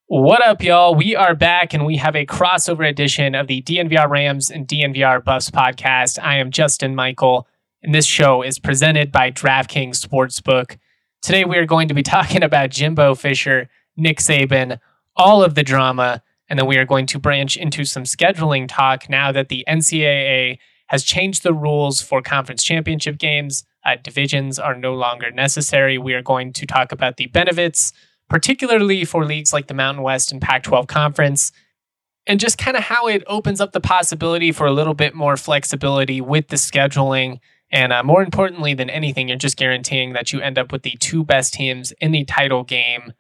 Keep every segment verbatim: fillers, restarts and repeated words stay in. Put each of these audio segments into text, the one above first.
What up, y'all? We are back and we have a crossover edition of the D N V R Rams and D N V R Buffs podcast. I am Justin Michael, and this show is presented by DraftKings Sportsbook. Today we are going to be talking about Jimbo Fisher, Nick Saban, all of the drama, and then we are going to branch into some scheduling talk now that the N C double A has changed the rules for conference championship games. Uh, divisions are no longer necessary. We are going to talk about the benefits, particularly for leagues like the Mountain West and Pac twelve Conference, and just kind of how it opens up the possibility for a little bit more flexibility with the scheduling. And uh, more importantly than anything, you're just guaranteeing that you end up with the two best teams in the title game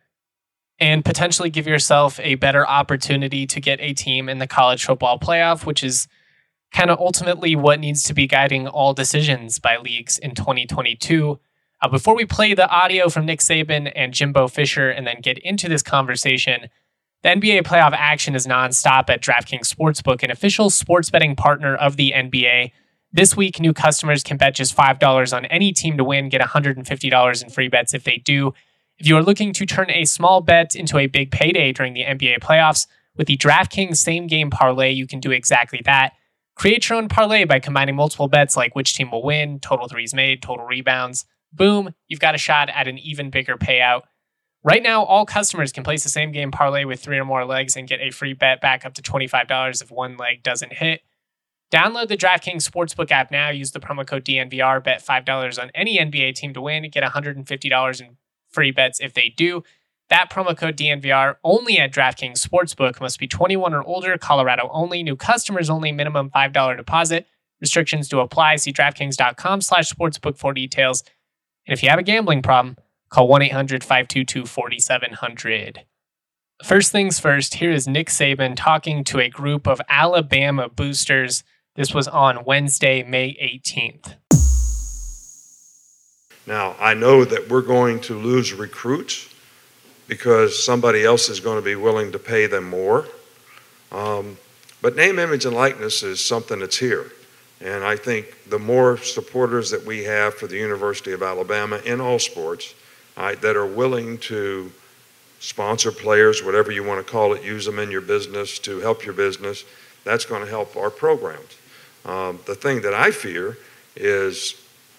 and potentially give yourself a better opportunity to get a team in the college football playoff, which is kind of ultimately what needs to be guiding all decisions by leagues in twenty twenty-two. Uh, before we play the audio from Nick Saban and Jimbo Fisher and then get into this conversation, the N B A playoff action is nonstop at DraftKings Sportsbook, an official sports betting partner of the N B A. This week, new customers can bet just five dollars on any team to win, get one hundred fifty dollars in free bets if they do. If you are looking to turn a small bet into a big payday during the N B A playoffs, with the DraftKings Same Game Parlay, you can do exactly that. Create your own parlay by combining multiple bets like which team will win, total threes made, total rebounds. Boom, you've got a shot at an even bigger payout. Right now, all customers can place the same game parlay with three or more legs and get a free bet back up to twenty-five dollars if one leg doesn't hit. Download the DraftKings Sportsbook app now. Use the promo code D N V R. Bet five dollars on any N B A team to win. Get one hundred fifty dollars in free bets if they do. That promo code D N V R only at DraftKings Sportsbook. Must be twenty-one or older. Colorado only. New customers only. Minimum five dollars deposit. Restrictions do apply. See DraftKings.com slash sportsbook for details. And if you have a gambling problem, call one eight hundred five two two four seven zero zero. First things first, here is Nick Saban talking to a group of Alabama boosters. This was on Wednesday, May eighteenth. Now, I know that we're going to lose recruits because somebody else is going to be willing to pay them more. Um, but name, image, and likeness is something that's here. And I think the more supporters that we have for the University of Alabama in all sports uh, that are willing to sponsor players, whatever you want to call it, use them in your business to help your business, that's going to help our programs. Um, the thing that I fear is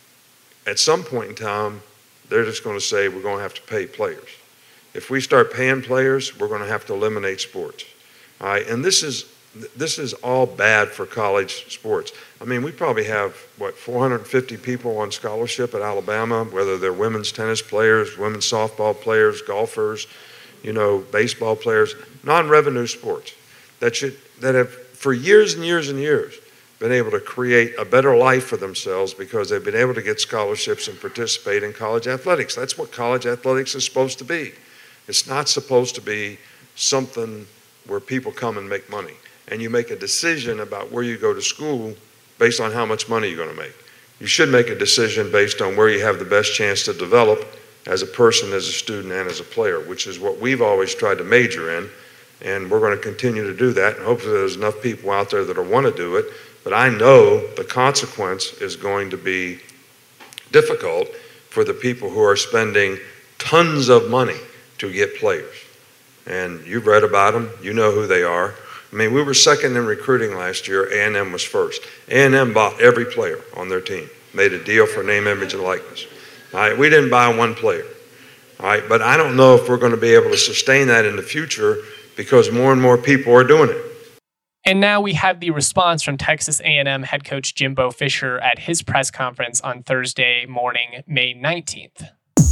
at some point in time, they're just going to say we're going to have to pay players. If we start paying players, we're going to have to eliminate sports. All right, and this is This is all bad for college sports. I mean, we probably have, what, four hundred fifty people on scholarship at Alabama, whether they're women's tennis players, women's softball players, golfers, you know, baseball players, non-revenue sports that should that have, for years and years and years, been able to create a better life for themselves because they've been able to get scholarships and participate in college athletics. That's what college athletics is supposed to be. It's not supposed to be something where people come and make money. And you make a decision about where you go to school based on how much money you're going to make. You should make a decision based on where you have the best chance to develop as a person, as a student, and as a player, which is what we've always tried to major in. And we're going to continue to do that. And hopefully there's enough people out there that will want to do it. But I know the consequence is going to be difficult for the people who are spending tons of money to get players. And you've read about them. You know who they are. I mean, we were second in recruiting last year. A and M was first. A and M bought every player on their team, made a deal for name, image, and likeness. All right, we didn't buy one player. All right, but I don't know if we're going to be able to sustain that in the future because more and more people are doing it. And now we have the response from Texas A and M head coach Jimbo Fisher at his press conference on Thursday morning, May nineteenth.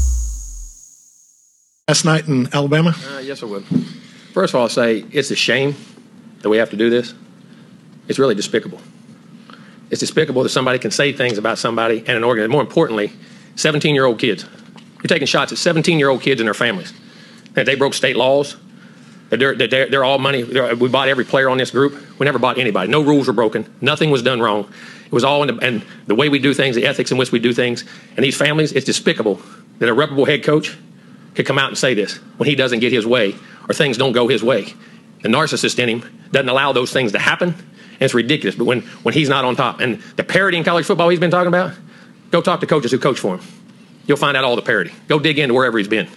Last night in Alabama? Uh, yes, I would. First of all, I'll say it's a shame that we have to do this. It's really despicable. It's despicable that somebody can say things about somebody and an organization. More importantly, seventeen-year-old kids. You're taking shots at seventeen-year-old kids and their families. That they broke state laws. That they're, that they're, they're all money. They're, we bought every player on this group. We never bought anybody. No rules were broken. Nothing was done wrong. It was all in the, and the way we do things, the ethics in which we do things. And these families, it's despicable that a reputable head coach could come out and say this when he doesn't get his way or things don't go his way. The narcissist in him doesn't allow those things to happen, and it's ridiculous. But when, when he's not on top, and the parity in college football he's been talking about, go talk to coaches who coach for him. You'll find out all the parity. Go dig into wherever he's been.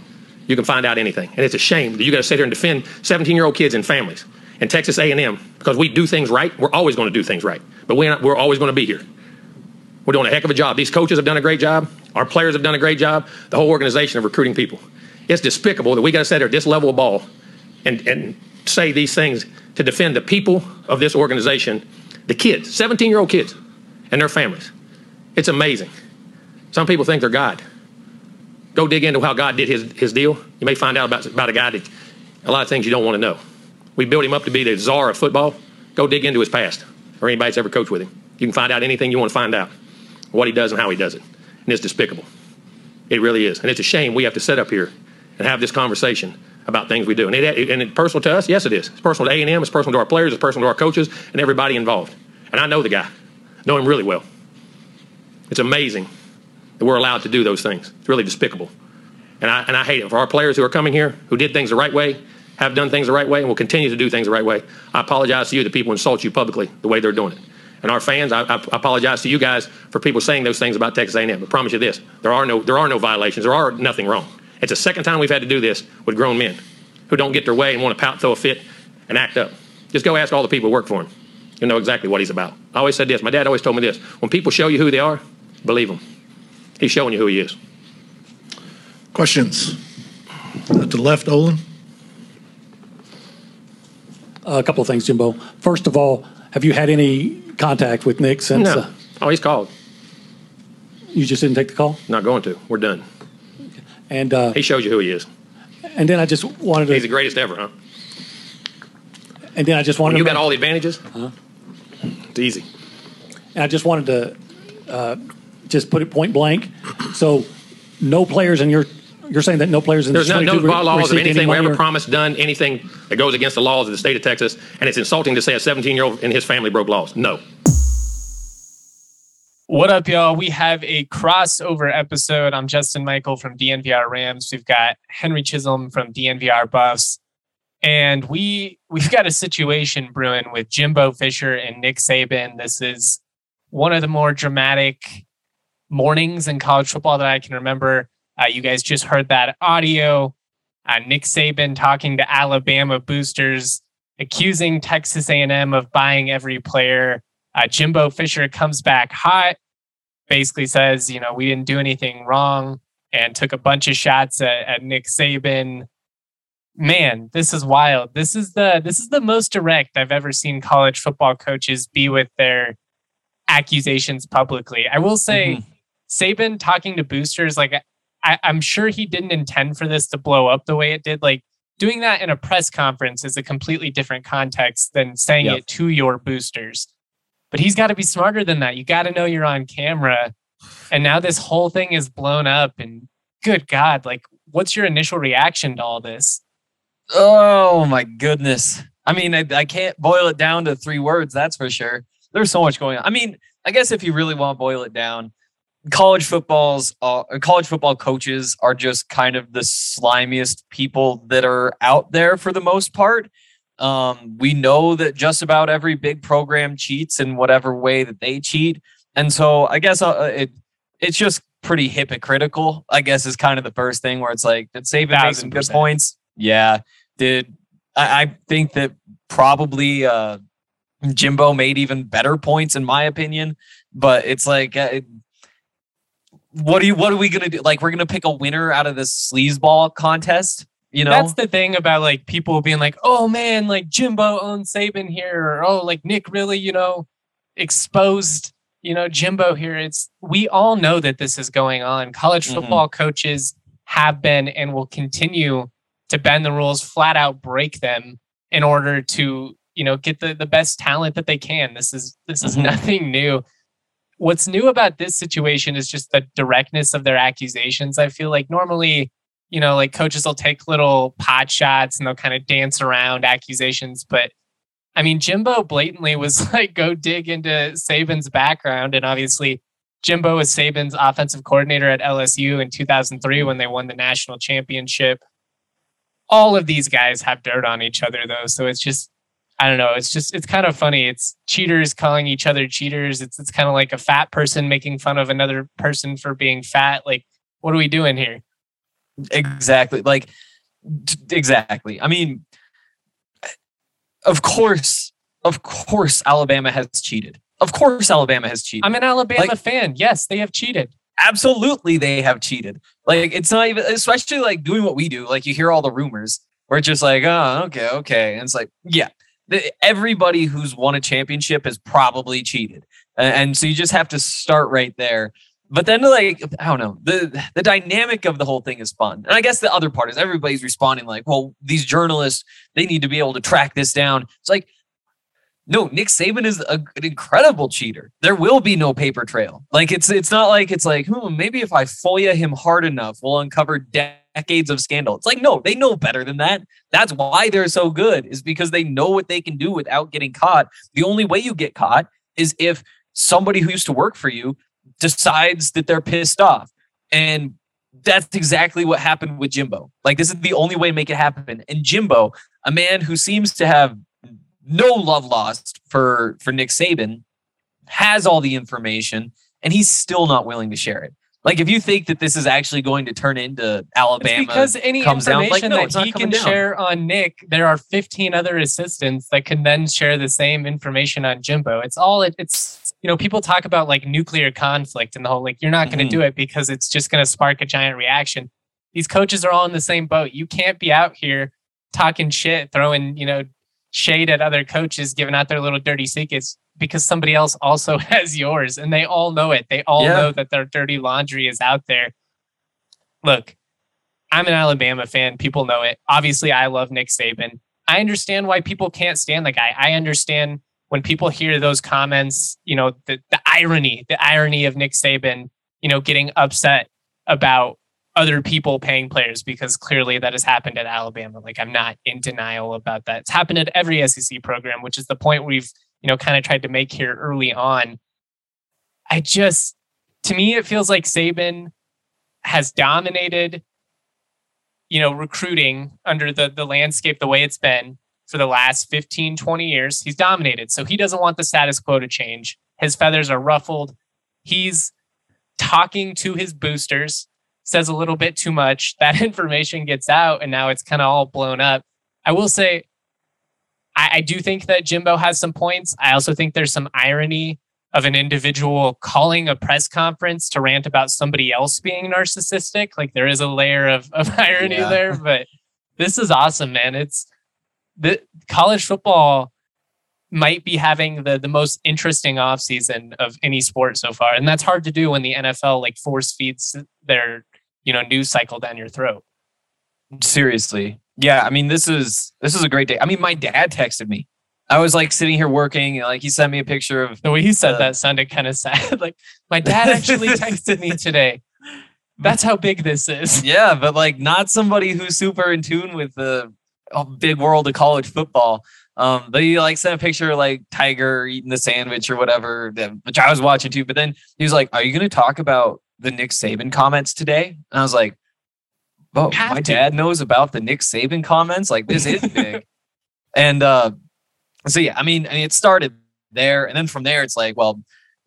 You can find out anything. And it's a shame that you got to sit here and defend seventeen-year-old kids and families in Texas A and M because we do things right. We're always going to do things right. But we're, not, we're always going to be here. We're doing a heck of a job. These coaches have done a great job. Our players have done a great job. The whole organization of recruiting people. It's despicable that we got to sit here at this level of ball and, and say these things to defend the people of this organization, the kids, seventeen-year-old kids and their families. It's amazing. Some people think they're God. Go dig into how God did his, his deal. You may find out about, about a guy that a lot of things you don't want to know. We built him up to be the czar of football. Go dig into his past or anybody that's ever coached with him. You can find out anything you want to find out, what he does and how he does it. And it's despicable. It really is. And it's a shame we have to sit up here and have this conversation about things we do. And, it, and it's personal to us? Yes, it is. It's personal to A and M. It's personal to our players. It's personal to our coaches and everybody involved. And I know the guy. I know him really well. It's amazing that we're allowed to do those things. It's really despicable. And I, and I hate it. For our players who are coming here, who did things the right way, have done things the right way, and will continue to do things the right way, I apologize to you that people insult you publicly the way they're doing it. And our fans, I, I apologize to you guys for people saying those things about Texas A and M. I promise you this, there are no there are no violations. There are nothing wrong. It's the second time we've had to do this with grown men who don't get their way and want to pout, throw a fit, and act up. Just go ask all the people who work for him. You'll know exactly what he's about. I always said this. My dad always told me this. When people show you who they are, believe them. He's showing you who he is. Questions? Uh, to the left, Olin. A couple of things, Jimbo. First of all, have you had any contact with Nick since? No. Uh, oh, he's called. You just didn't take the call? Not going to. We're done. And uh, he shows you who he is. And then I just wanted to. He's the greatest ever, huh? And then I just wanted. When you to got all the advantages. Huh? It's easy. And I just wanted to uh, just put it point blank. So, no players in your. You're saying that no players in There's the no, no re- laws of anything we ever or? promised, done anything that goes against the laws of the state of Texas, and it's insulting to say a seventeen-year-old and his family broke laws. No. What up, y'all? We have a crossover episode. I'm Justin Michael from D N V R Rams. We've got Henry Chisholm from D N V R Buffs. And we, we've got a situation brewing with Jimbo Fisher and Nick Saban. This is one of the more dramatic mornings in college football that I can remember. Uh, you guys just heard that audio. Uh, Nick Saban talking to Alabama boosters, accusing Texas A and M of buying every player. Uh, Jimbo Fisher comes back hot, basically says, you know, we didn't do anything wrong, and took a bunch of shots at, at Nick Saban. Man, this is wild. This is the this is the most direct I've ever seen college football coaches be with their accusations publicly. I will say, mm-hmm. Saban talking to boosters, like I, I'm sure he didn't intend for this to blow up the way it did. Like doing that in a press conference is a completely different context than saying yep. it to your boosters. But he's got to be smarter than that. You got to know you're on camera. And now this whole thing is blown up. And good God, like, what's your initial reaction to all this? Oh, my goodness. I mean, I, I can't boil it down to three words, that's for sure. There's so much going on. I mean, I guess if you really want to boil it down, college football's uh, college football coaches are just kind of the slimiest people that are out there for the most part. Um, we know that just about every big program cheats in whatever way that they cheat. And so I guess uh, it it's just pretty hypocritical, I guess, is kind of the first thing where it's like, did Saban make some good points? Yeah. Did I, I think that probably uh, Jimbo made even better points in my opinion, but it's like, uh, what do you, what are we going to do? Like, we're going to pick a winner out of this sleazeball contest. You know, that's the thing about like people being like, oh man, like Jimbo owns Saban here. Or, oh, like Nick really, you know, exposed, you know, Jimbo here. It's, we all know that this is going on. College football mm-hmm. coaches have been and will continue to bend the rules, flat out break them in order to, you know, get the, the best talent that they can. This is, this is mm-hmm. nothing new. What's new about this situation is just the directness of their accusations. I feel like normally, you know, like coaches will take little pot shots and they'll kind of dance around accusations. But I mean, Jimbo blatantly was like, go dig into Saban's background. And obviously Jimbo was Saban's offensive coordinator at L S U in two thousand three when they won the national championship. All of these guys have dirt on each other though. So it's just, I don't know. It's just, it's kind of funny. It's cheaters calling each other cheaters. It's, it's kind of like a fat person making fun of another person for being fat. Like, what are we doing here? Exactly. Like, t- exactly. I mean, of course, of course, Alabama has cheated. Of course, Alabama has cheated. I'm an Alabama Like- fan. Yes, they have cheated. Absolutely, they have cheated. Like, it's not even, especially like doing what we do. Like, you hear all the rumors where it's just like, oh, okay, okay. And it's like, yeah, the, everybody who's won a championship has probably cheated. And, and so you just have to start right there. But then, like, I don't know, the the dynamic of the whole thing is fun. And I guess the other part is everybody's responding like, well, these journalists, they need to be able to track this down. It's like, no, Nick Saban is a, an incredible cheater. There will be no paper trail. Like, it's it's not like it's like, hmm, maybe if I FOIA him hard enough, we'll uncover decades of scandal. It's like, no, they know better than that. That's why they're so good, is because they know what they can do without getting caught. The only way you get caught is if somebody who used to work for you decides that they're pissed off. And that's exactly what happened with Jimbo. Like, this is the only way to make it happen. And Jimbo, a man who seems to have no love lost for, for Nick Saban, has all the information, and he's still not willing to share it. Like, if you think that this is actually going to turn into Alabama, It's because any comes down, information like, no, it's that not he coming can down. share on Nick, there are fifteen other assistants that can then share the same information on Jimbo. It's all, it, it's, you know, people talk about like nuclear conflict and the whole, like, you're not going to Mhm. do it because it's just going to spark a giant reaction. These coaches are all in the same boat. You can't be out here talking shit, throwing, you know, shade at other coaches, giving out their little dirty secrets because somebody else also has yours, and they all know it. They all Yeah. know that their dirty laundry is out there. Look, I'm an Alabama fan. People know it. Obviously, I love Nick Saban. I understand why people can't stand the guy. I understand when people hear those comments, you know, the, the irony, the irony of Nick Saban, you know, getting upset about other people paying players, because clearly that has happened at Alabama. Like, I'm not in denial about that. It's happened at every S E C program, which is the point we've, you know, kind of tried to make here early on. I just, to me, it feels like Saban has dominated, you know, recruiting under the, the landscape, the way it's been for the last fifteen, twenty years. He's dominated. So he doesn't want the status quo to change. His feathers are ruffled. He's talking to his boosters, says a little bit too much. That information gets out, and now it's kind of all blown up. I will say, I, I do think that Jimbo has some points. I also think there's some irony of an individual calling a press conference to rant about somebody else being narcissistic. Like, there is a layer of, of irony Yeah. there, but this is awesome, man. It's the college football might be having the, the most interesting offseason of any sport so far. And that's hard to do when the N F L like force feeds their, you know, news cycle down your throat. Seriously. Yeah, I mean, this is this is a great day. I mean, my dad texted me. I was like sitting here working, and like he sent me a picture of The way he said Uh, that sounded kind of sad. Like, my dad actually texted me today. That's how big this is. yeah, but like not somebody who's super in tune with the uh, big world of college football. Um, but he like sent a picture of like Tiger eating the sandwich or whatever, that- which I was watching too. But then he was like, "Are you going to talk about the Nick Saban comments today?" And I was like, "Oh, Have my to. dad knows about the Nick Saban comments. Like, this is big." And uh, so yeah, I mean, I mean, it started there, and then from there, it's like, well,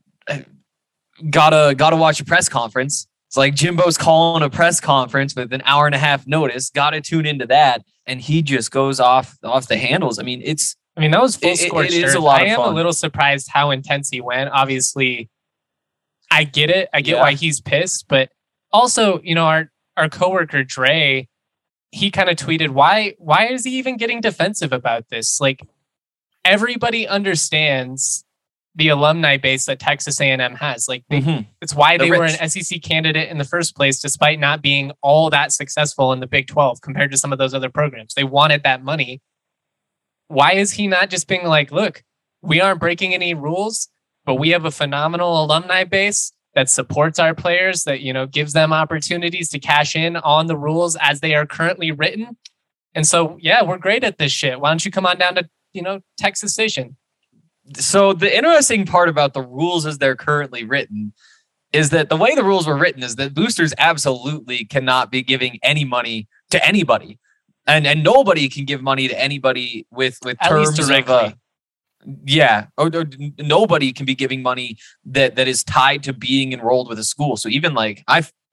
gotta gotta watch a press conference. It's like Jimbo's calling a press conference with an hour and a half notice. Gotta tune into that, and he just goes off off the handles. I mean, it's I mean, that was full It- it- scorched it is earth. a lot I of am a fun. little surprised how intense he went. Obviously, I get it. I get Yeah. why he's pissed, but also, you know, our our coworker Dre, he kind of tweeted, "Why why is he even getting defensive about this? Like, everybody understands the alumni base that Texas A and M has. Like, they, Mhm. it's why They're they were rich. an S E C candidate in the first place, despite not being all that successful in the Big twelve compared to some of those other programs. They wanted that money. Why is he not just being like, look, we aren't breaking any rules, but we have a phenomenal alumni base that supports our players, that, you know, gives them opportunities to cash in on the rules as they are currently written. And so, yeah, we're great at this shit. Why don't you come on down to, you know, Texas Station?" So the interesting part about the rules as they're currently written is that the way the rules were written is that boosters absolutely cannot be giving any money to anybody, and and nobody can give money to anybody with with At least terms of uh, directly. yeah, or, or n- nobody can be giving money that that is tied to being enrolled with a school. So even like I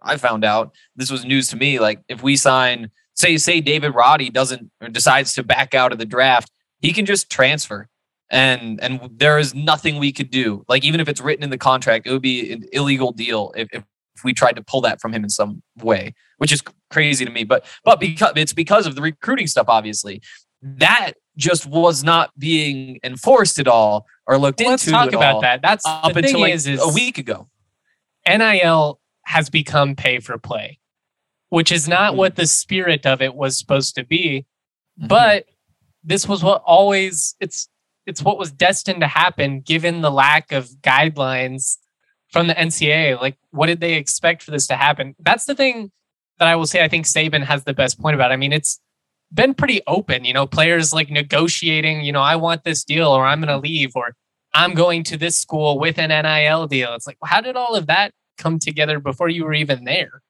I found out, this was news to me. Like if we sign, say, say David Roddy doesn't or decides to back out of the draft, he can just transfer. And and there is nothing we could do. Like even if it's written in the contract, it would be an illegal deal if, if we tried to pull that from him in some way, which is crazy to me. But but because it's because of the recruiting stuff, obviously. That just was not being enforced at all or looked well, into. Let's talk about all that. That's up the until thing like is, is a week ago. N I L has become pay for play, which is not mm-hmm. what the spirit of it was supposed to be. Mm-hmm. But this was what always it's it's what was destined to happen given the lack of guidelines from the N C double A. Like, what did they expect for this to happen? That's the thing that I will say I think Saban has the best point about. I mean, it's been pretty open, you know, players like negotiating, you know, I want this deal or I'm going to leave or I'm going to this school with an N I L deal. It's like, how did all of that come together before you were even there?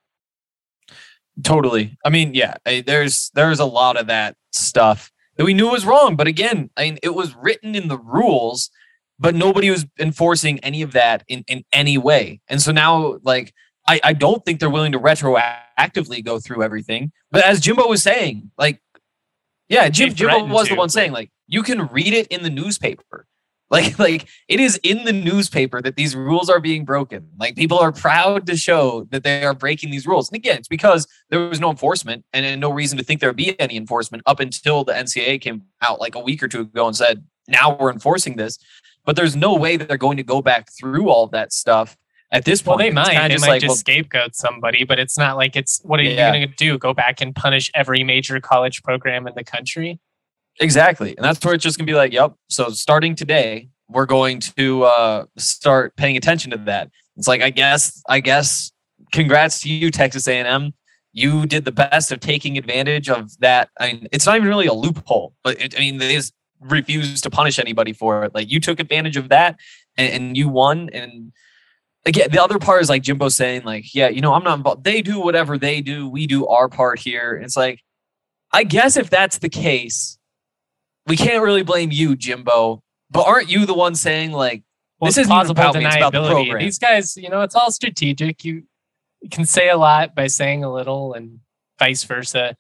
Totally. I mean, yeah, there's there's a lot of that stuff that we knew was wrong. But again, I mean, it was written in the rules, but nobody was enforcing any of that in, in any way. And so now, like, I, I don't think they're willing to retroactively go through everything. But as Jimbo was saying, like, yeah, Jim, Jimbo was the one saying, like, you can read it in the newspaper. Like, like it is in the newspaper that these rules are being broken. Like people are proud to show that they are breaking these rules. And again, it's because there was no enforcement and, and no reason to think there would be any enforcement up until the N C double A came out like a week or two ago and said, now we're enforcing this. But there's no way that they're going to go back through all of that stuff at this point. Well, they might. They just might like, just well, scapegoat somebody, but it's not like it's, what are yeah. you going to do? Go back and punish every major college program in the country? Exactly. And that's where it's just going to be like, yep. So starting today, we're going to uh, start paying attention to that. It's like, I guess, I guess, congrats to you, Texas A and M. You did the best of taking advantage of that. I mean, it's not even really a loophole, but it, I mean, they just refused to punish anybody for it. Like you took advantage of that and, and you won. And again, the other part is like Jimbo saying like, yeah, you know, I'm not involved. They do whatever they do. We do our part here. It's like, I guess if that's the case, we can't really blame you, Jimbo. But aren't you the one saying like, well, this isn't about me, it's about the program? These guys, you know, it's all strategic. You, you can say a lot by saying a little and vice versa.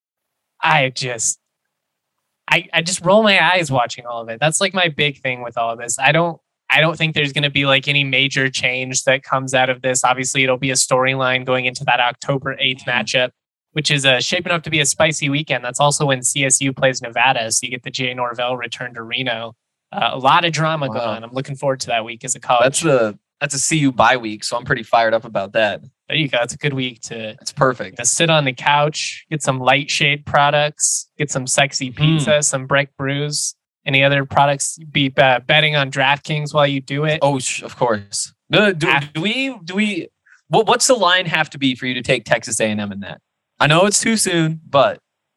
I just, I, I just roll my eyes watching all of it. That's like my big thing with all of this. I don't, I don't think there's going to be like any major change that comes out of this. Obviously, it'll be a storyline going into that October eighth matchup, which is uh, shaping up to be a spicy weekend. That's also when C S U plays Nevada. So you get the Jay Norvell return to Reno. Uh, a lot of drama wow. going on. I'm looking forward to that week as a college. That's a that's a C U bye week, so I'm pretty fired up about that. There you go. It's a good week to. It's perfect. To sit on the couch, get some light shade products, get some sexy pizza, mm. some Breck brews. Any other products? Be uh, betting on DraftKings while you do it. Oh, of course. Do, do, do we? Do we? What, what's the line have to be for you to take Texas A and M in that? I know it's too soon, but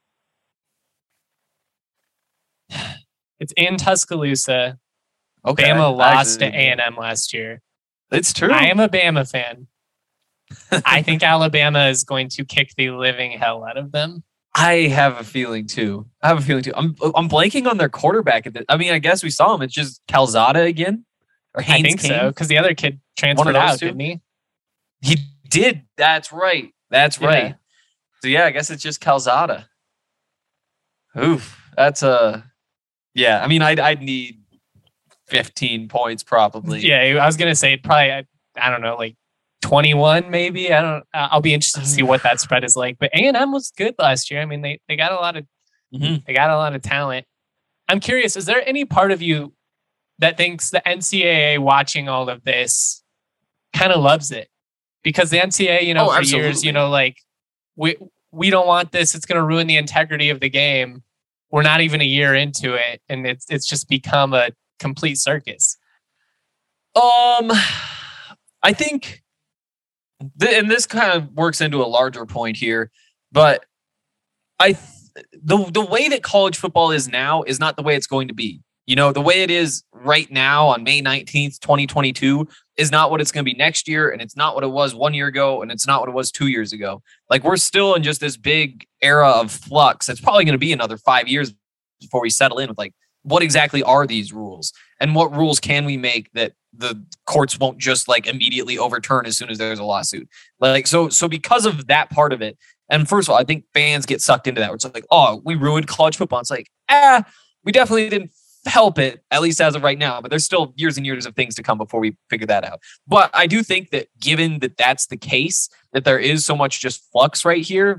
it's in Tuscaloosa. Okay. Bama lost to A and M last year. It's true. I am a Bama fan. I think Alabama is going to kick the living hell out of them. I have a feeling too. I have a feeling too. I'm I'm blanking on their quarterback. At the, I mean, I guess we saw him. It's just Calzada again, or Haynes I think King? so, because the other kid transferred out, two? didn't he? He did. That's right. That's yeah. right. So yeah, I guess it's just Calzada. Oof, that's a yeah. I mean, I'd I'd need fifteen points probably. Yeah, I was gonna say probably. I, I don't know, like twenty-one maybe. I don't. I'll be interested to see what that spread is like. But A and M was good last year. I mean, they they got a lot of mm-hmm. they got a lot of talent. I'm curious. Is there any part of you that thinks the N C double A watching all of this kind of loves it? Because the N C double A, you know, oh, for absolutely. years, you know, like we we don't want this. It's going to ruin the integrity of the game. We're not even a year into it, and it's it's just become a complete circus. Um, I think, th- and this kind of works into a larger point here, but I th- the the way that college football is now is not the way it's going to be. You know, the way it is right now on May nineteenth, twenty twenty-two is not what it's going to be next year. And it's not what it was one year ago. And it's not what it was two years ago. Like we're still in just this big era of flux. It's probably going to be another five years before we settle in with like, what exactly are these rules and what rules can we make that the courts won't just like immediately overturn as soon as there's a lawsuit. Like, so, so because of that part of it, and first of all, I think fans get sucked into that. Where it's like, oh, we ruined college football. It's like, ah, we definitely didn't help it, at least as of right now. But there's still years and years of things to come before we figure that out. But I do think that given that that's the case, that there is so much just flux right here,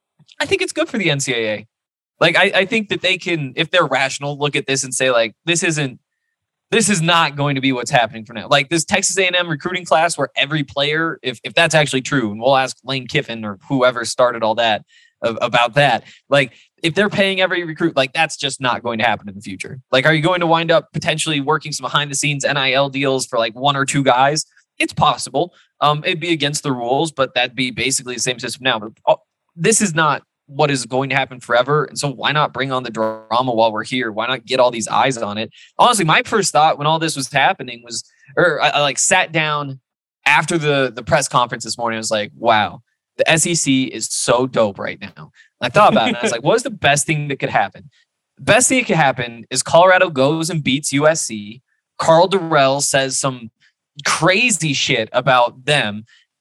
I think it's good for the N C double A. Like, I, I think that they can, if they're rational, look at this and say, like, this isn't, this is not going to be what's happening for now. Like this Texas A and M recruiting class where every player, if, if that's actually true, and we'll ask Lane Kiffin or whoever started all that uh, about that, like if they're paying every recruit, like that's just not going to happen in the future. Like, are you going to wind up potentially working some behind the scenes N I L deals for like one or two guys? It's possible. Um, it'd be against the rules, but that'd be basically the same system now. But oh, this is not what is going to happen forever. And so why not bring on the drama while we're here? Why not get all these eyes on it? Honestly, my first thought when all this was happening was, or I, I like sat down after the, the press conference this morning. I was like, wow, the S E C is so dope right now. And I thought about it. And I was like, what's the best thing that could happen? The best thing that could happen is Colorado goes and beats U S C. Carl Durrell says some crazy shit about them.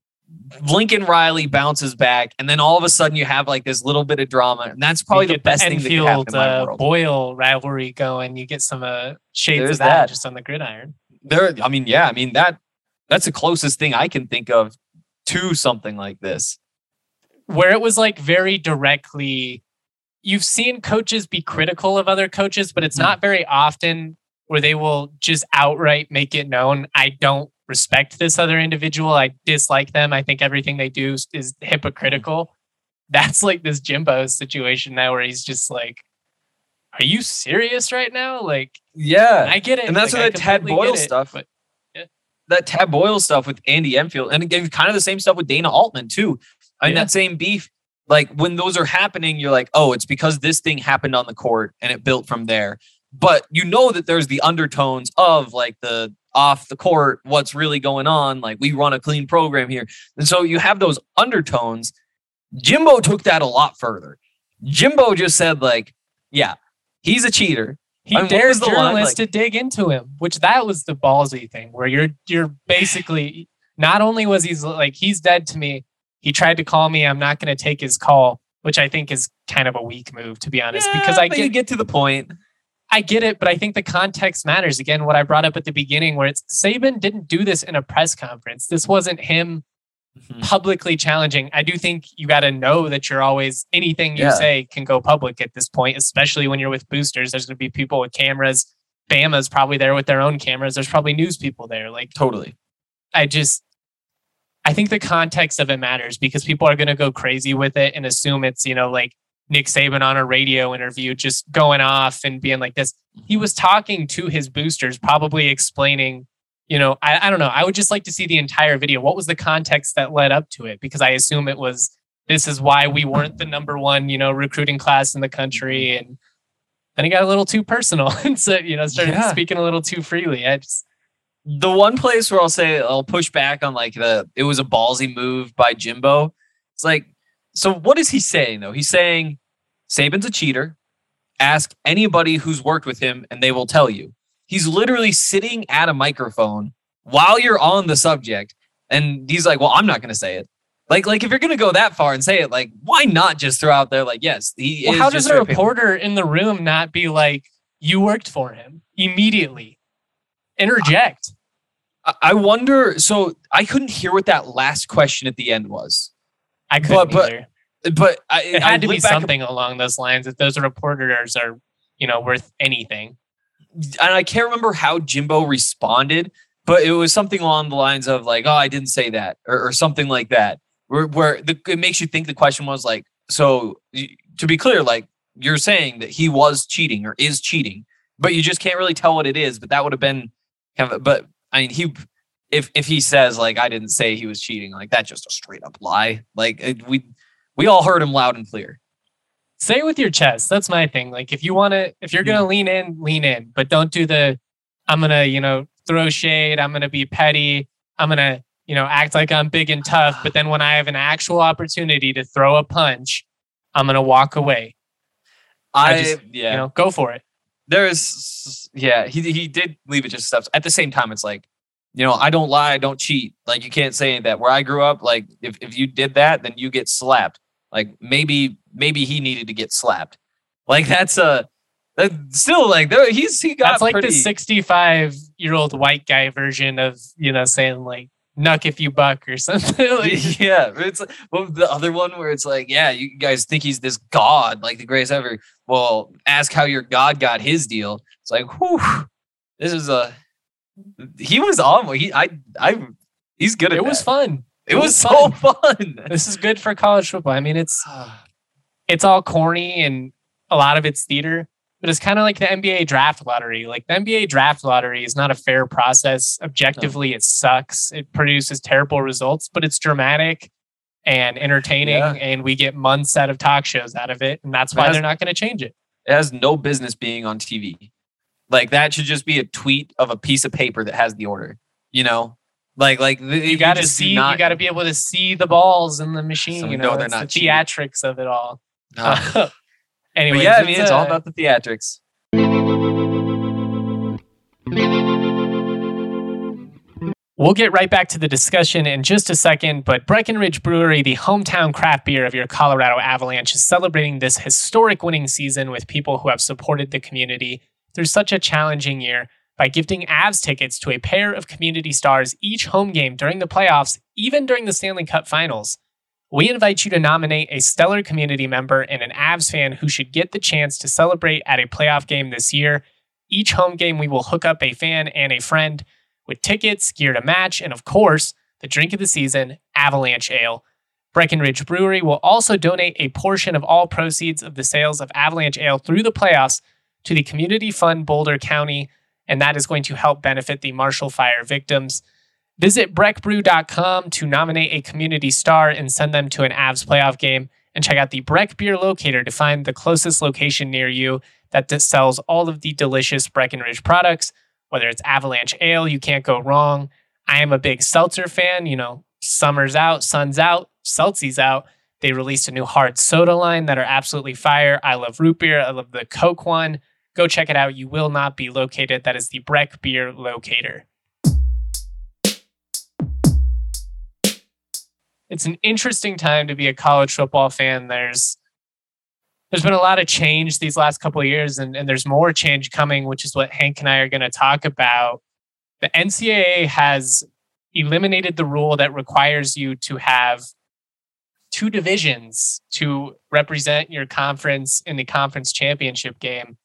Lincoln Riley bounces back, and then all of a sudden you have like this little bit of drama, and that's probably the best thing that could happen in my uh, world. Boyle rivalry going. You get some uh, shades There's of that, that. just on the gridiron. There, I mean, yeah, I mean that that's the closest thing I can think of to something like this. Where it was like very directly, you've seen coaches be critical of other coaches, but it's not very often where they will just outright make it known, I don't respect this other individual. I dislike them. I think everything they do is, is hypocritical. That's like this Jimbo situation now where he's just like, are you serious right now? Like, Yeah, I get it. and that's like, what I that Tad completely Boyle get it, stuff. but That Tad Boyle stuff with Andy Enfield, and again, kind of the same stuff with Dana Altman too. I mean, Yeah. that same beef. Like when those are happening, you're like, oh, it's because this thing happened on the court and it built from there. But you know that there's the undertones of like the off the court, what's really going on. Like we run a clean program here. And so you have those undertones. Jimbo took that a lot further. Jimbo just said like, yeah, he's a cheater. he I mean, what dares was the line? journalists Like- to dig into him, which that was the ballsy thing where you're, you're basically, not only was he's like, he's dead to me. He tried to call me. I'm not going to take his call, which I think is kind of a weak move, to be honest, Yeah, because I but get, you get to the point. I get it, but I think the context matters. Again, what I brought up at the beginning, where it's Saban didn't do this in a press conference. This wasn't him Mhm. publicly challenging. I do think you got to know that you're always, anything you Yeah. say can go public at this point, especially when you're with boosters. There's going to be people with cameras. Bama's probably there with their own cameras. There's probably news people there. Like, Totally. I just, I think the context of it matters because people are going to go crazy with it and assume it's, you know, like Nick Saban on a radio interview, just going off and being like this. He was talking to his boosters, probably explaining, you know, I, I don't know. I would just like to see the entire video. What was the context that led up to it? Because I assume it was, this is why we weren't the number one, you know, recruiting class in the country. And then he got a little too personal and so, you know, started Yeah. speaking a little too freely. I just, The one place where I'll say I'll push back on like the it was a ballsy move by Jimbo. It's like, so what is he saying though? He's saying Saban's a cheater. Ask anybody who's worked with him and they will tell you. He's literally sitting at a microphone while you're on the subject. And he's like, well, I'm not going to say it. Like, like if you're going to go that far and say it, like, why not just throw out there like, yes, he well, is how does just a ripping- reporter in the room not be like, you worked for him immediately? Interject. I- I wonder. So I couldn't hear what that last question at the end was. I couldn't But- but- either. But I, It I had to be went back and- something along those lines. If those reporters are, you know, worth anything. and I can't remember how Jimbo responded, but it was something along the lines of like, "Oh, I didn't say that," or, or something like that, where where the, it makes you think the question was like, "So y- to be clear, like you're saying that he was cheating or is cheating, but you just can't really tell what it is." But that would have been kind of. But I mean, he if if he says like, "I didn't say he was cheating," like that's just a straight up lie. Like it, we we all heard him loud and clear. Say it with your chest. That's my thing. Like if you want to, if you're going to lean in, lean in, but don't do the, I'm going to, you know, throw shade. I'm going to be petty. I'm going to, you know, act like I'm big and tough. But then when I have an actual opportunity to throw a punch, I'm going to walk away. I, I just, yeah. You know, go for it. There's yeah, he he did leave it just stuff. At the same time, it's like you know, I don't lie, I don't cheat. Like, you can't say that. Where I grew up, like, if, if you did that, then you get slapped. Like, maybe maybe he needed to get slapped. Like, that's a that still like there he's he got that's like pretty, the sixty-five year old white guy version of, you know, saying like "nuck if you buck" or something. Like, yeah, it's like, well, the other one where it's like, yeah, you guys think he's this god, like the greatest ever. Well, ask how your god got his deal. It's like, whew, this is a he was on. He I I he's good at it that. was fun. It, it was, was so fun. fun. This is good for college football. I mean, it's it's all corny and a lot of it's theater, but it's kind of like the N B A draft lottery. Like the N B A draft lottery is not a fair process. Objectively, no. It sucks. It produces terrible results, but it's dramatic and entertaining, yeah. and we get months out of talk shows out of it, and that's why has, they're not going to change it. It has no business being on T V. Like, that should just be a tweet of a piece of paper that has the order, you know? Like, like you got to see, not, you got to be able to see the balls in the machine. So you know, they're not the theatrics of it all. Uh, anyway, yeah, I mean, it's, it's all about the theatrics. We'll get right back to the discussion in just a second, but Breckenridge Brewery, the hometown craft beer of your Colorado Avalanche, is celebrating this historic winning season with people who have supported the community through such a challenging year by gifting Avs tickets to a pair of community stars each home game during the playoffs, even during the Stanley Cup Finals. We invite you to nominate a stellar community member and an Avs fan who should get the chance to celebrate at a playoff game this year. Each home game, we will hook up a fan and a friend with tickets, gear to match, and of course, the drink of the season, Avalanche Ale. Breckenridge Brewery will also donate a portion of all proceeds of the sales of Avalanche Ale through the playoffs to the Community Fund Boulder County, and that is going to help benefit the Marshall Fire victims. Visit breck brew dot com to nominate a community star and send them to an Avs playoff game, and check out the Breck Beer Locator to find the closest location near you that sells all of the delicious Breckenridge products. Whether it's Avalanche Ale, you can't go wrong. I am a big seltzer fan. You know, summer's out, sun's out, Seltzie's out. They released a new hard soda line that are absolutely fire. I love root beer. I love the Coke one. Go check it out. You will not be located. That is the Breck Beer Locator. It's an interesting time to be a college football fan. There's There's been a lot of change these last couple of years, and, and there's more change coming, which is what Hank and I are going to talk about. The N C double A has eliminated the rule that requires you to have two divisions to represent your conference in the conference championship game.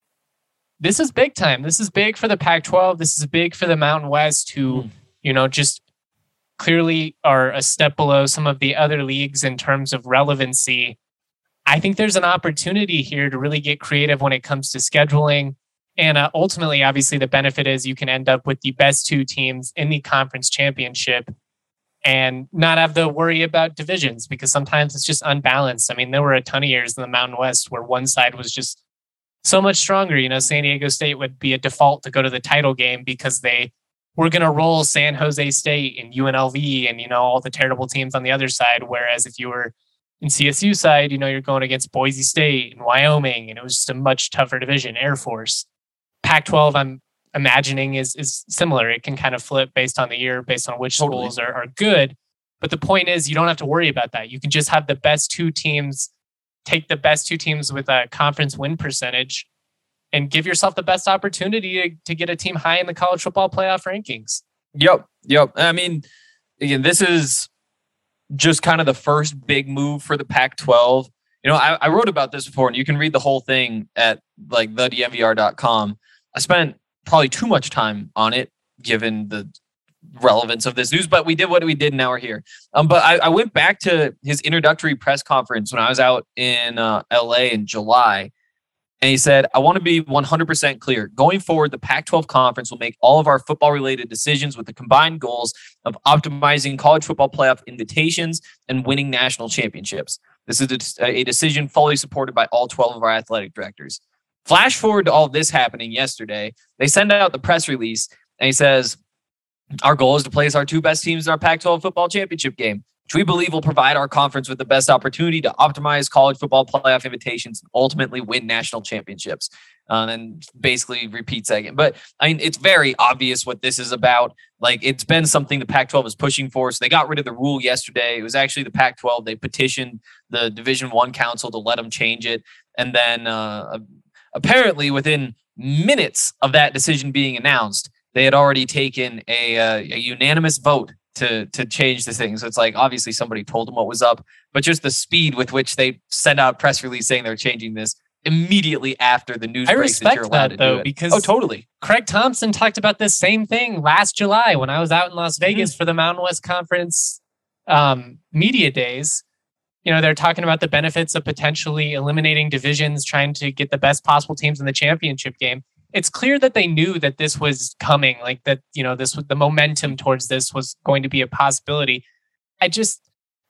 This is big time. This is big for the Pac twelve. This is big for the Mountain West, who, mm. you know, just clearly are a step below some of the other leagues in terms of relevancy. I think there's an opportunity here to really get creative when it comes to scheduling. And uh, ultimately, obviously, the benefit is you can end up with the best two teams in the conference championship and not have to worry about divisions, because sometimes it's just unbalanced. I mean, there were a ton of years in the Mountain West where one side was just so much stronger. You know, San Diego State would be a default to go to the title game because they were going to roll San Jose State and U N L V and, you know, all the terrible teams on the other side. Whereas if you were in C S U side, you know, you're going against Boise State and Wyoming, and it was just a much tougher division. Air Force. Pac twelve, I'm imagining, is is similar. It can kind of flip based on the year, based on which totally. schools are, are good. But the point is, you don't have to worry about that. You can just have the best two teams, take the best two teams with a conference win percentage, and give yourself the best opportunity to, to get a team high in the college football playoff rankings. Yep. Yep. I mean, again, this is just kind of the first big move for the Pac twelve. You know, I, I wrote about this before, and you can read the whole thing at like the D N V R dot com. I spent probably too much time on it, given the relevance of this news, but we did what we did. Now we're here. Um, but I, I went back to his introductory press conference when I was out in uh, L A in July. And he said, I want to be one hundred percent clear. Going forward, the Pac twelve conference will make all of our football-related decisions with the combined goals of optimizing college football playoff invitations and winning national championships. This is a, a decision fully supported by all twelve of our athletic directors. Flash forward to all this happening yesterday. They send out the press release, and he says, our goal is to place our two best teams in our Pac twelve football championship game. which we believe will provide our conference with the best opportunity to optimize college football playoff invitations and ultimately win national championships. Uh, and basically repeats that again. But I mean, it's very obvious what this is about. Like, it's been something the Pac twelve is pushing for. So they got rid of the rule yesterday. It was actually the Pac twelve. They petitioned the Division One Council to let them change it. And then uh, apparently within minutes of that decision being announced, they had already taken a, uh, a unanimous vote to to change the thing. So it's like, obviously somebody told them what was up, but just the speed with which they sent out a press release saying they're changing this immediately after the news I breaks that respect you're allowed that, to though, do it. because oh, totally. Craig Thompson talked about this same thing last July when I was out in Las Vegas Mm-hmm. for the Mountain West Conference um, media days. You know, they're talking about the benefits of potentially eliminating divisions, trying to get the best possible teams in the championship game. It's clear that they knew that this was coming, like that, you know, this was the momentum towards this was going to be a possibility. I just,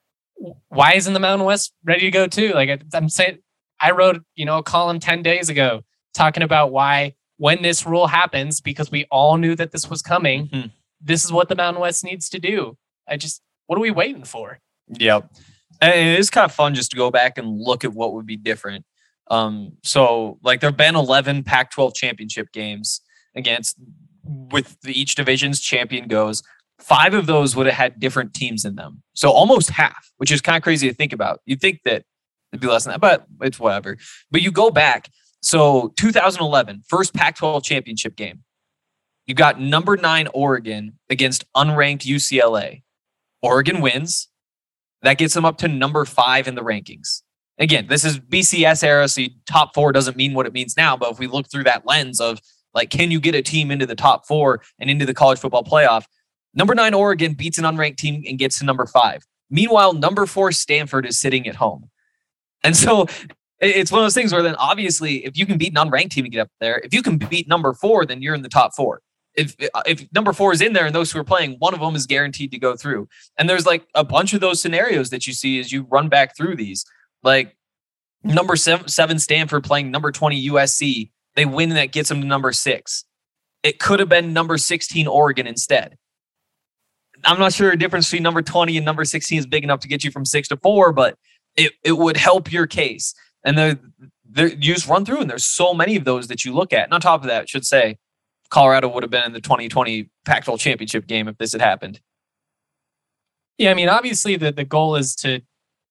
why isn't the Mountain West ready to go too? Like I, I'm saying, I wrote, you know, a column ten days ago talking about why when this rule happens, because we all knew that this was coming, Mm-hmm. this is what the Mountain West needs to do. I just, what are we waiting for? Yep. And it is kind of fun just to go back and look at what would be different. Um, so like there've been eleven Pac twelve championship games against with the, each division's champion goes. Five of those would have had different teams in them. So almost half, which is kind of crazy to think about. You'd think that it'd be less than that, but it's whatever. But you go back. So two thousand eleven, first Pac twelve championship game. You got number nine Oregon against unranked U C L A. Oregon wins. That gets them up to number five in the rankings. Again, this is B C S era, so top four doesn't mean what it means now. But if we look through that lens of, like, can you get a team into the top four and into the college football playoff? Number nine Oregon beats an unranked team and gets to number five. Meanwhile, number four Stanford is sitting at home. And so it's one of those things where then obviously if you can beat an unranked team and get up there, if you can beat number four, then you're in the top four. If if number four is in there and those who are playing, one of them is guaranteed to go through. And there's like a bunch of those scenarios that you see as you run back through these. Like number seven, seven Stanford playing number twenty U S C. They win and that gets them to number six. It could have been number sixteen Oregon instead. I'm not sure the difference between number twenty and number sixteen is big enough to get you from six to four, but it, it would help your case. And they're, they're, you just run through and there's so many of those that you look at. And on top of that, I should say, Colorado would have been in the twenty twenty Pac twelve championship game if this had happened. Yeah, I mean, obviously the, the goal is to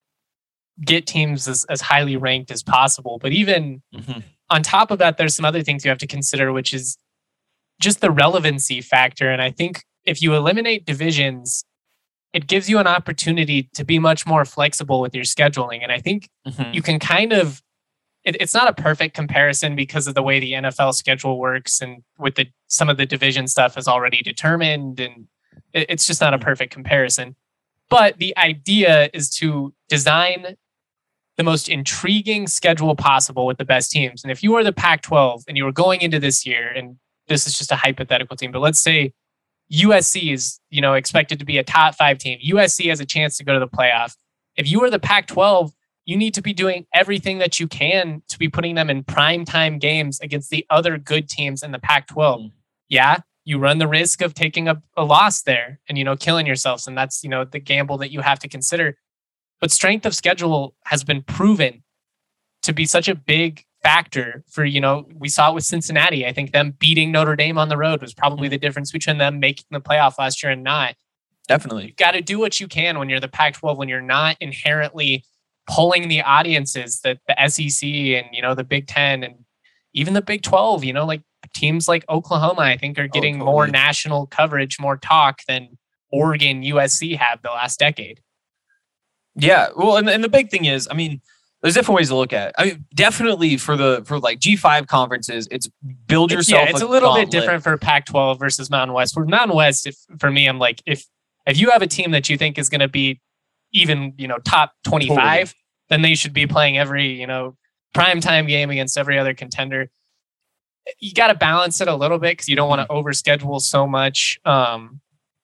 get teams as, as highly ranked as possible. But even Mm-hmm. on top of that, there's some other things you have to consider, which is just the relevancy factor. And I think if you eliminate divisions, it gives you an opportunity to be much more flexible with your scheduling. And I think Mm-hmm. you can kind of, it, it's not a perfect comparison because of the way the N F L schedule works and with the some of the division stuff is already determined. And it, it's just not a perfect comparison. But the idea is to design the most intriguing schedule possible with the best teams. And if you are the Pac twelve and you were going into this year, and this is just a hypothetical team, but let's say U S C is, you know, expected to be a top five team. U S C has a chance to go to the playoff. If you are the Pac twelve, you need to be doing everything that you can to be putting them in primetime games against the other good teams in the Pac twelve. Mm. Yeah, you run the risk of taking a, a loss there and, you know, killing yourselves. And that's, you know, the gamble that you have to consider. But strength of schedule has been proven to be such a big factor for, you know, we saw it with Cincinnati. I think them beating Notre Dame on the road was probably the difference between them making the playoff last year and not. Definitely. You got to do what you can when you're the Pac twelve, when you're not inherently pulling the audiences that the S E C and, you know, the Big Ten and even the Big twelve, you know, like teams like Oklahoma, I think are getting oh, totally. more national coverage, more talk than Oregon, U S C have the last decade. Yeah. Well, and, and the big thing is, I mean, there's different ways to look at it. I mean, definitely for the, for like G five conferences, it's build yourself. It's, yeah, it's a, a little gauntlet. bit different for Pac twelve versus Mountain West. For Mountain West, if, for me, I'm like, if, if you have a team that you think is going to be even, you know, top twenty-five, totally. then they should be playing every, you know, primetime game against every other contender. You got to balance it a little bit because you don't want to overschedule so much. Um,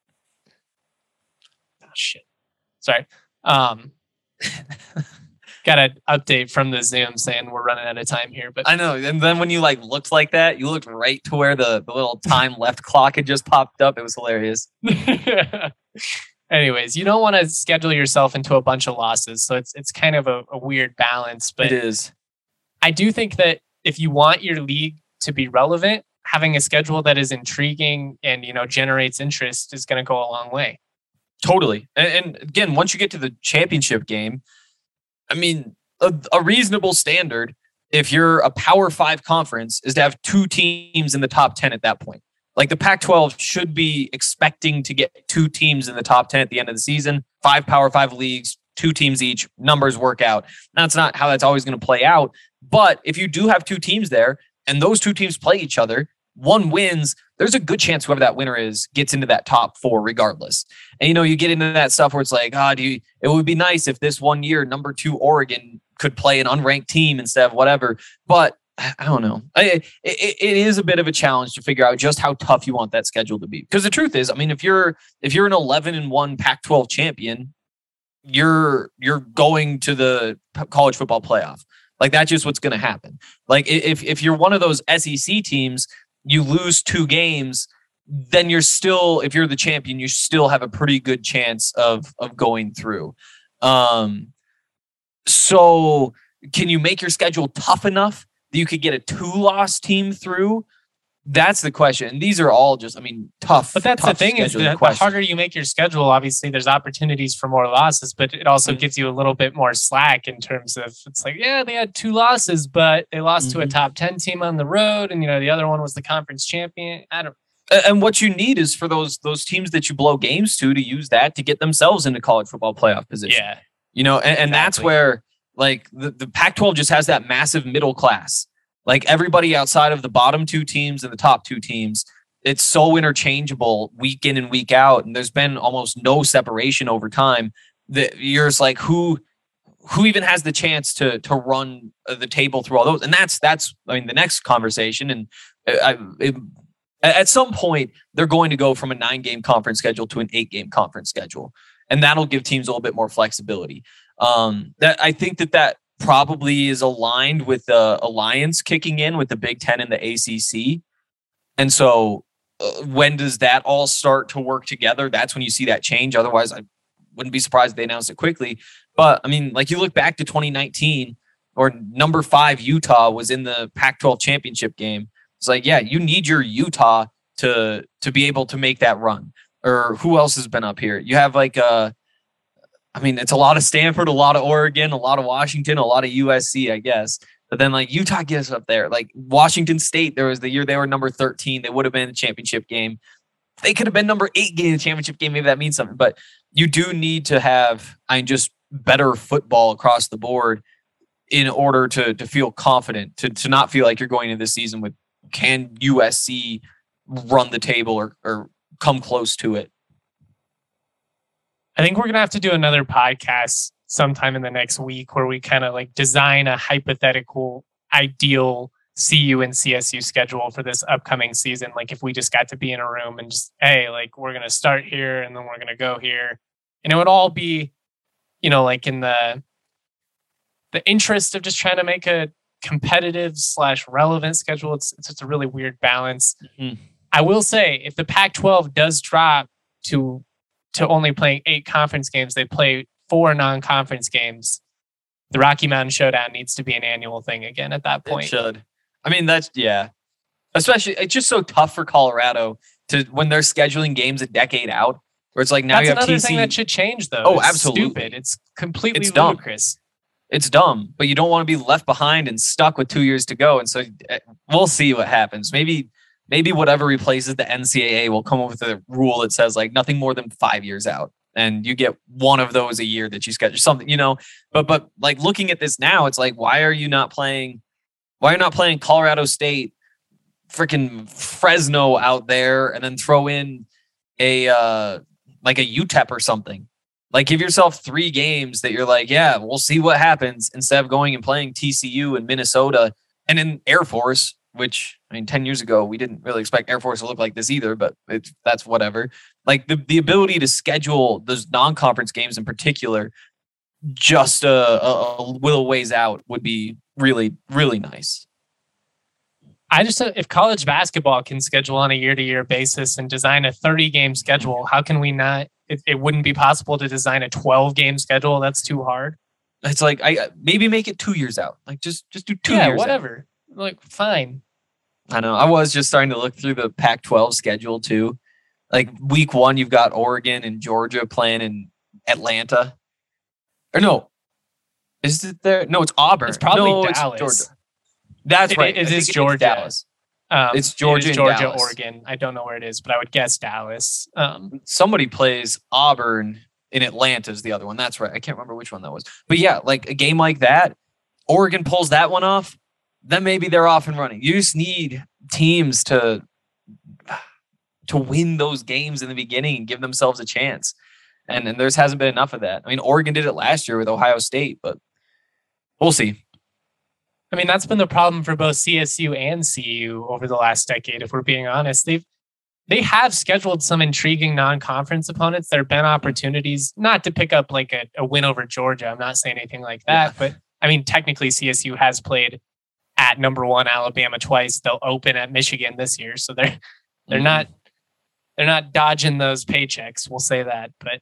oh, shit. Sorry. Um, got an update from the Zoom saying we're running out of time here. But I know. And then when you like looked like that, you looked right to where the, the little time left clock had just popped up. It was hilarious. Anyways, you don't want to schedule yourself into a bunch of losses. So it's it's kind of a, a weird balance. But It is. I do think that if you want your league to be relevant, having a schedule that is intriguing and, you know, generates interest is going to go a long way. Totally. And, and again, once you get to the championship game, I mean, a, a reasonable standard, if you're a Power Five conference, is to have two teams in the top ten at that point. Like the Pac twelve should be expecting to get two teams in the top ten at the end of the season, five Power Five leagues, two teams each, numbers work out. That's not how that's always going to play out. But if you do have two teams there and those two teams play each other, one wins, there's a good chance whoever that winner is gets into that top four regardless. And, you know, you get into that stuff where it's like, ah, oh, do you, it would be nice if this one year, number two Oregon could play an unranked team instead of whatever. But I don't know. I, it, it is a bit of a challenge to figure out just how tough you want that schedule to be. Because the truth is, I mean, if you're if you're an eleven and one Pac twelve champion, you're you're going to the college football playoff. Like that's just what's going to happen. Like if if you're one of those S E C teams, you lose two games, then you're still, if you're the champion, you still have a pretty good chance of of going through. Um, so can you make your schedule tough enough that you could get a two-loss team through? That's the question. And these are all just, I mean, tough. But that's the tough thing is the, the harder you make your schedule, obviously there's opportunities for more losses, but it also mm-hmm. gives you a little bit more slack in terms of, it's like, yeah, they had two losses, but they lost mm-hmm. to a top ten team on the road. And, you know, the other one was the conference champion. I don't And what you need is for those those teams that you blow games to, to use that to get themselves into college football playoff position. Yeah. You know, and, and exactly. that's where like the, the Pac twelve just has that massive middle class. Like everybody outside of the bottom two teams and the top two teams, it's so interchangeable week in and week out. And there's been almost no separation over time that you're just like, who, who even has the chance to, to run the table through all those? And that's, that's, I mean, the next conversation. And I, it, at some point they're going to go from a nine game conference schedule to an eight game conference schedule. And that'll give teams a little bit more flexibility. Um, that I think that that, probably is aligned with the alliance kicking in with the Big Ten and the A C C. And so uh, when does that all start to work together? That's when you see that change. Otherwise, I wouldn't be surprised if they announced it quickly. But I mean, like you look back to twenty nineteen or number five Utah was in the Pac twelve championship game. It's like, yeah, you need your Utah to, to be able to make that run. Or who else has been up here? You have like a, I mean, it's a lot of Stanford, a lot of Oregon, a lot of Washington, a lot of U S C, I guess. But then like Utah gets up there. Like Washington State, there was the year they were number thirteen. They would have been in the championship game. They could have been number eight getting the championship game. Maybe that means something. But you do need to have, I mean, just better football across the board in order to to feel confident, to, to not feel like you're going into this season with, can U S C run the table or, or come close to it? I think we're going to have to do another podcast sometime in the next week where we kind of like design a hypothetical ideal C U and C S U schedule for this upcoming season. Like if we just got to be in a room and just, hey, like we're going to start here and then we're going to go here. And it would all be, you know, like in the, the interest of just trying to make a competitive slash relevant schedule. It's, it's just a really weird balance. Mm-hmm. I will say if the Pac twelve does drop to to only playing eight conference games, they play four non-conference games. The Rocky Mountain Showdown needs to be an annual thing again at that point. It should. I mean, that's, yeah. Especially, it's just so tough for Colorado to, when they're scheduling games a decade out, where it's like now that's you have another T C. thing that should change, though. Oh, it's absolutely. Stupid. It's completely It's dumb. ludicrous. It's dumb, but you don't want to be left behind and stuck with two years to go. And so we'll see what happens. Maybe Maybe whatever replaces the N C double A will come up with a rule that says like nothing more than five years out. And you get one of those a year that you schedule something, you know, but, but like looking at this now, it's like, why are you not playing, why are you not playing Colorado State, freaking Fresno out there and then throw in a, uh, like a U T E P or something? Like give yourself three games that you're like, yeah, we'll see what happens instead of going and playing T C U and Minnesota and in Air Force, which I mean, ten years ago, we didn't really expect Air Force to look like this either, but it's, that's whatever. Like the, the ability to schedule those non-conference games in particular, just a, a, a little ways out would be really, really nice. I just if college basketball can schedule on a year-to-year basis and design a thirty-game schedule, how can we not? It, it wouldn't be possible to design a twelve-game schedule. That's too hard. It's like I maybe make it two years out. Like just just do two yeah, years. whatever. Out. Like fine. I know. I was just starting to look through the Pac twelve schedule too. Like week one, you've got Oregon and Georgia playing in Atlanta. Or no, is it there? No, it's Auburn. It's probably no, Dallas. It's Georgia. That's It- right. it I think is it's Georgia. Dallas. Um, It's Georgia it is and Georgia, Dallas. Oregon. I don't know where it is, but I would guess Dallas. Um, Somebody plays Auburn in Atlanta is the other one. That's right. I can't remember which one that was. But yeah, like a game like that, Oregon pulls that one off, then maybe they're off and running. You just need teams to to win those games in the beginning and give themselves a chance. And and there's hasn't been enough of that. I mean, Oregon did it last year with Ohio State, but we'll see. I mean, that's been the problem for both C S U and C U over the last decade. If we're being honest, they've they have scheduled some intriguing non-conference opponents. There have been opportunities not to pick up like a, a win over Georgia. I'm not saying anything like that, Yeah. but I mean, technically C S U has played at number one Alabama twice. They'll open at Michigan this year, so they're they're Mhm. not they're not dodging those paychecks. We'll say that, but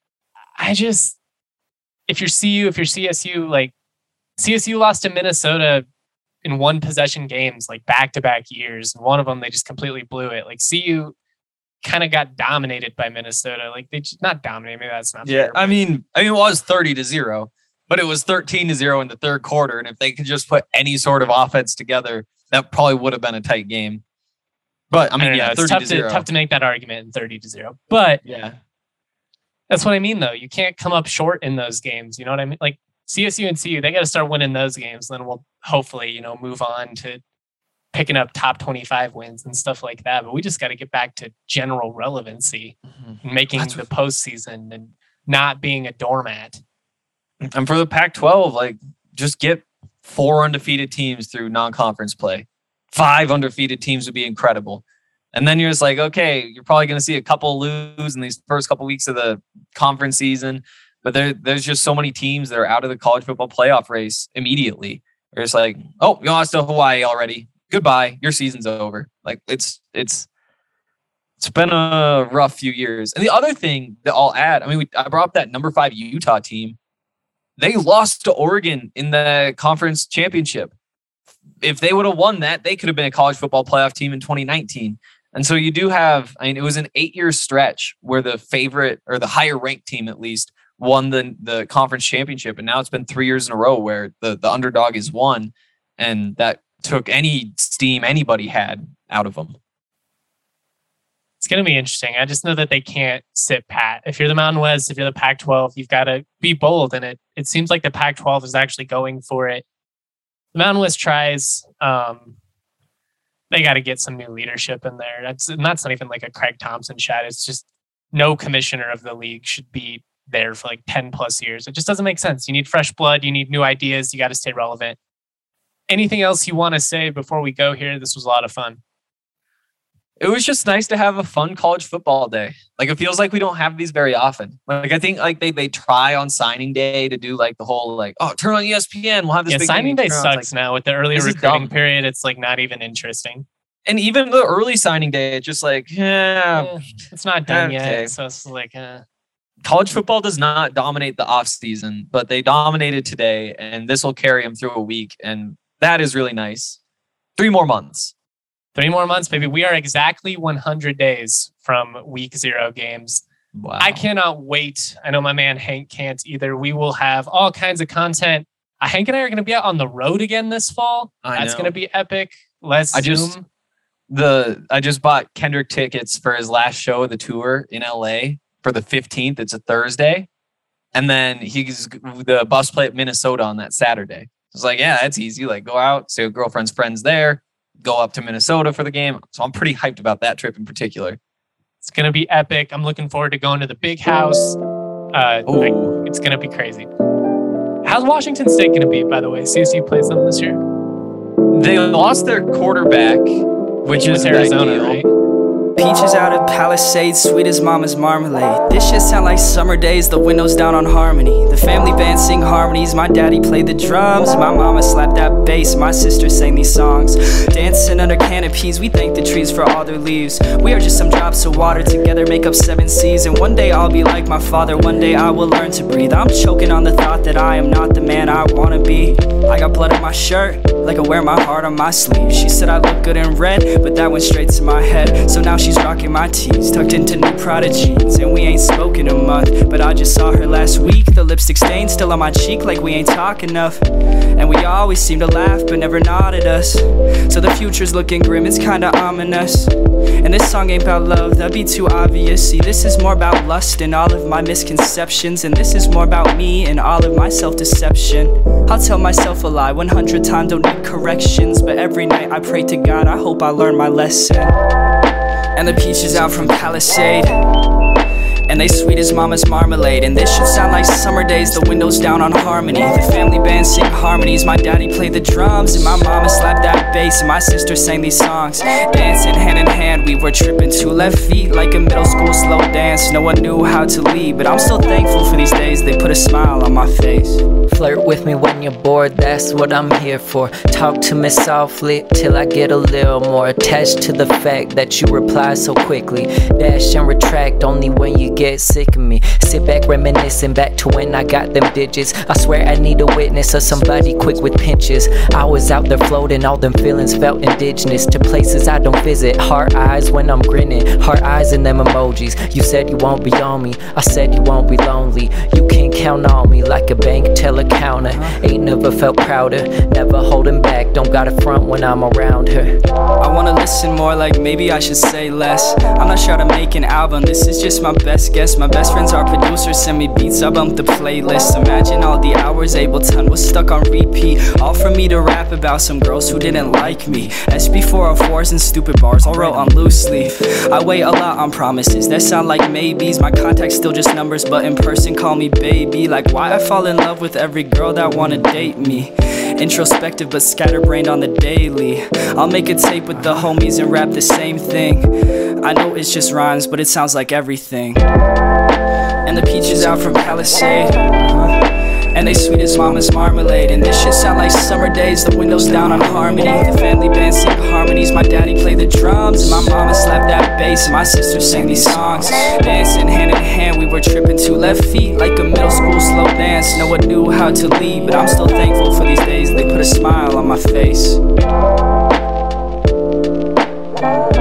I just if you're C U, if you're C S U, like C S U lost to Minnesota in one possession games, like back to back years. And one of them, they just completely blew it. Like C U kind of got dominated by Minnesota. Like they just not dominated. Maybe that's not Yeah, fair, I but mean, I mean, it was thirty to zero, but it was thirteen to zero in the third quarter. And if they could just put any sort of offense together, that probably would have been a tight game. But I I mean, don't yeah, know. It's thirty tough to to, zero. tough to make that argument in thirty to zero. But Yeah, that's what I mean, though. You can't come up short in those games. You know what I mean? Like C S U and C U, they got to start winning those games. Then we'll hopefully, you know, move on to picking up top twenty-five wins and stuff like that. But we just got to get back to general relevancy and making That's the postseason and not being a doormat. and for the Pac twelve, like just get four undefeated teams through non-conference play. Five undefeated teams would be incredible. And then you're just like, okay, you're probably going to see a couple lose in these first couple weeks of the conference season. But there, there's just so many teams that are out of the college football playoff race immediately. They're just like, oh, you lost to Hawaii already. Goodbye. Your season's over. Like it's it's it's been a rough few years. And the other thing that I'll add, I mean, we, I brought up that number five Utah team. They lost to Oregon in the conference championship. If they would have won that, they could have been a college football playoff team in twenty nineteen. And so you do have, I mean, it was an eight-year stretch where the favorite or the higher ranked team at least won the, the conference championship. And now it's been three years in a row where the, the underdog is won. And that took any steam anybody had out of them. It's going to be interesting. I just know that they can't sit pat. If you're the Mountain West, if you're the Pac twelve, you've got to be bold. And it, it seems like the Pac twelve is actually going for it. The Mountain West tries. Um, they got to get some new leadership in there. That's and that's not even like a Craig Thompson shot. It's just no commissioner of the league should be there for like ten plus years. It just doesn't make sense. You need fresh blood. You need new ideas. You got to stay relevant. Anything else you want to say before we go here? This was a lot of fun. It was just nice to have a fun college football day. Like it feels like we don't have these very often. Like I think like they they try on signing day to do like the whole like, oh, turn on E S P N. We'll have this Yeah, big signing game. day Turn on. It's sucks like- now with the earlier this is recruiting dumb. period. It's like not even interesting. And even the early signing day, it's just like, yeah, Eh, it's not done okay. yet. So it's like, uh, college football does not dominate the off season, but they dominated today, and this will carry them through a week, and that is really nice. Three more months. three more months, baby. We are exactly one hundred days from week zero games. Wow. I cannot wait. I know my man Hank can't either. We will have all kinds of content. Uh, Hank and I are going to be out on the road again this fall. I That's know. going to be epic. Let's I Zoom. just- The I just bought Kendrick tickets for his last show of the tour in L A for the fifteenth. It's a Thursday, and then he's the bus play at Minnesota on that Saturday. It's like, yeah, that's easy. Like, go out, see a girlfriend's friends there, go up to Minnesota for the game. So I'm pretty hyped about that trip in particular. It's going to be epic. I'm looking forward to going to the big house. Uh, Ooh. like, it's going to be crazy. How's Washington State going to be, by the way? C S U plays them this year. They lost their quarterback, which It is was Arizona, ideal. right? Peaches out of Palisades, sweet as mama's marmalade. This shit sound like summer days, the windows down on Harmony. The family band sing harmonies, my daddy played the drums. My mama slapped that bass, my sister sang these songs. Dancing under canopies, we thank the trees for all their leaves. We are just some drops of water, together make up seven seas. And one day I'll be like my father, one day I will learn to breathe. I'm choking on the thought that I am not the man I wanna be. I got blood on my shirt, like I wear my heart on my sleeve. She said I look good in red, but that went straight to my head. So now she's rocking my tees, tucked into new Prada jeans. And we ain't spoken a month, but I just saw her last week. The lipstick stain still on my cheek, like we ain't talk enough. And we always seem to laugh, but never nod at us. So the future's looking grim, it's kinda ominous. And this song ain't about love, that'd be too obvious. See, this is more about lust and all of my misconceptions. And this is more about me and all of my self-deception. I'll tell myself a lie one hundred times, don't need corrections. But every night I pray to God, I hope I learn my lesson. And the peaches out from Palisade, and they sweet as mama's marmalade. And this should sound like summer days, the windows down on Harmony. The family band sing harmonies, my daddy played the drums. And my mama slapped that bass, and my sister sang these songs. Dancing hand in hand, we were tripping two left feet, like a middle school slow dance. No one knew how to lead, but I'm still thankful for these days, they put a smile on my face. Flirt with me when you're bored, that's what I'm here for. Talk to me softly till I get a little more attached to the fact that you reply so quickly. Dash and retract only when you get sick of me. Sit back reminiscing back to when I got them digits. I swear I need a witness or somebody quick with pinches. I was out there floating, all them feelings felt indigenous to places I don't visit. Heart eyes when I'm grinning, heart eyes in them emojis. You said you won't be on me, I said you won't be lonely. You can count on me like a bank teller counter. Ain't never felt prouder, never holding back, don't got a front when I'm around her. I wanna listen more, like maybe I should say less. I'm not sure how to make an album, this is just my best guess. My best friends are producers, send me beats, I bump the playlist. Imagine all the hours Ableton was stuck on repeat, all for me to rap about some girls who didn't like me. S B four oh fours and stupid bars all wrote on loose leaf. I wait a lot on promises that sound like maybes. My contacts still just numbers, but in person call me baby. Like why I fall in love with every girl that wanna date me. Introspective but scatterbrained on the daily. I'll make a tape with the homies and rap the same thing. I know it's just rhymes, but it sounds like everything. And the peaches out from Palisade, and they sweet as mama's marmalade. And this shit sound like summer days, the windows down on Harmony. The family band sing harmonies, my daddy played the drums. And my mama slapped that bass, and my sister sang these songs. Dancing hand in hand, we were tripping two left feet, like a middle school slow dance. No one knew how to lead, but I'm still thankful for these days, they put a smile on my face.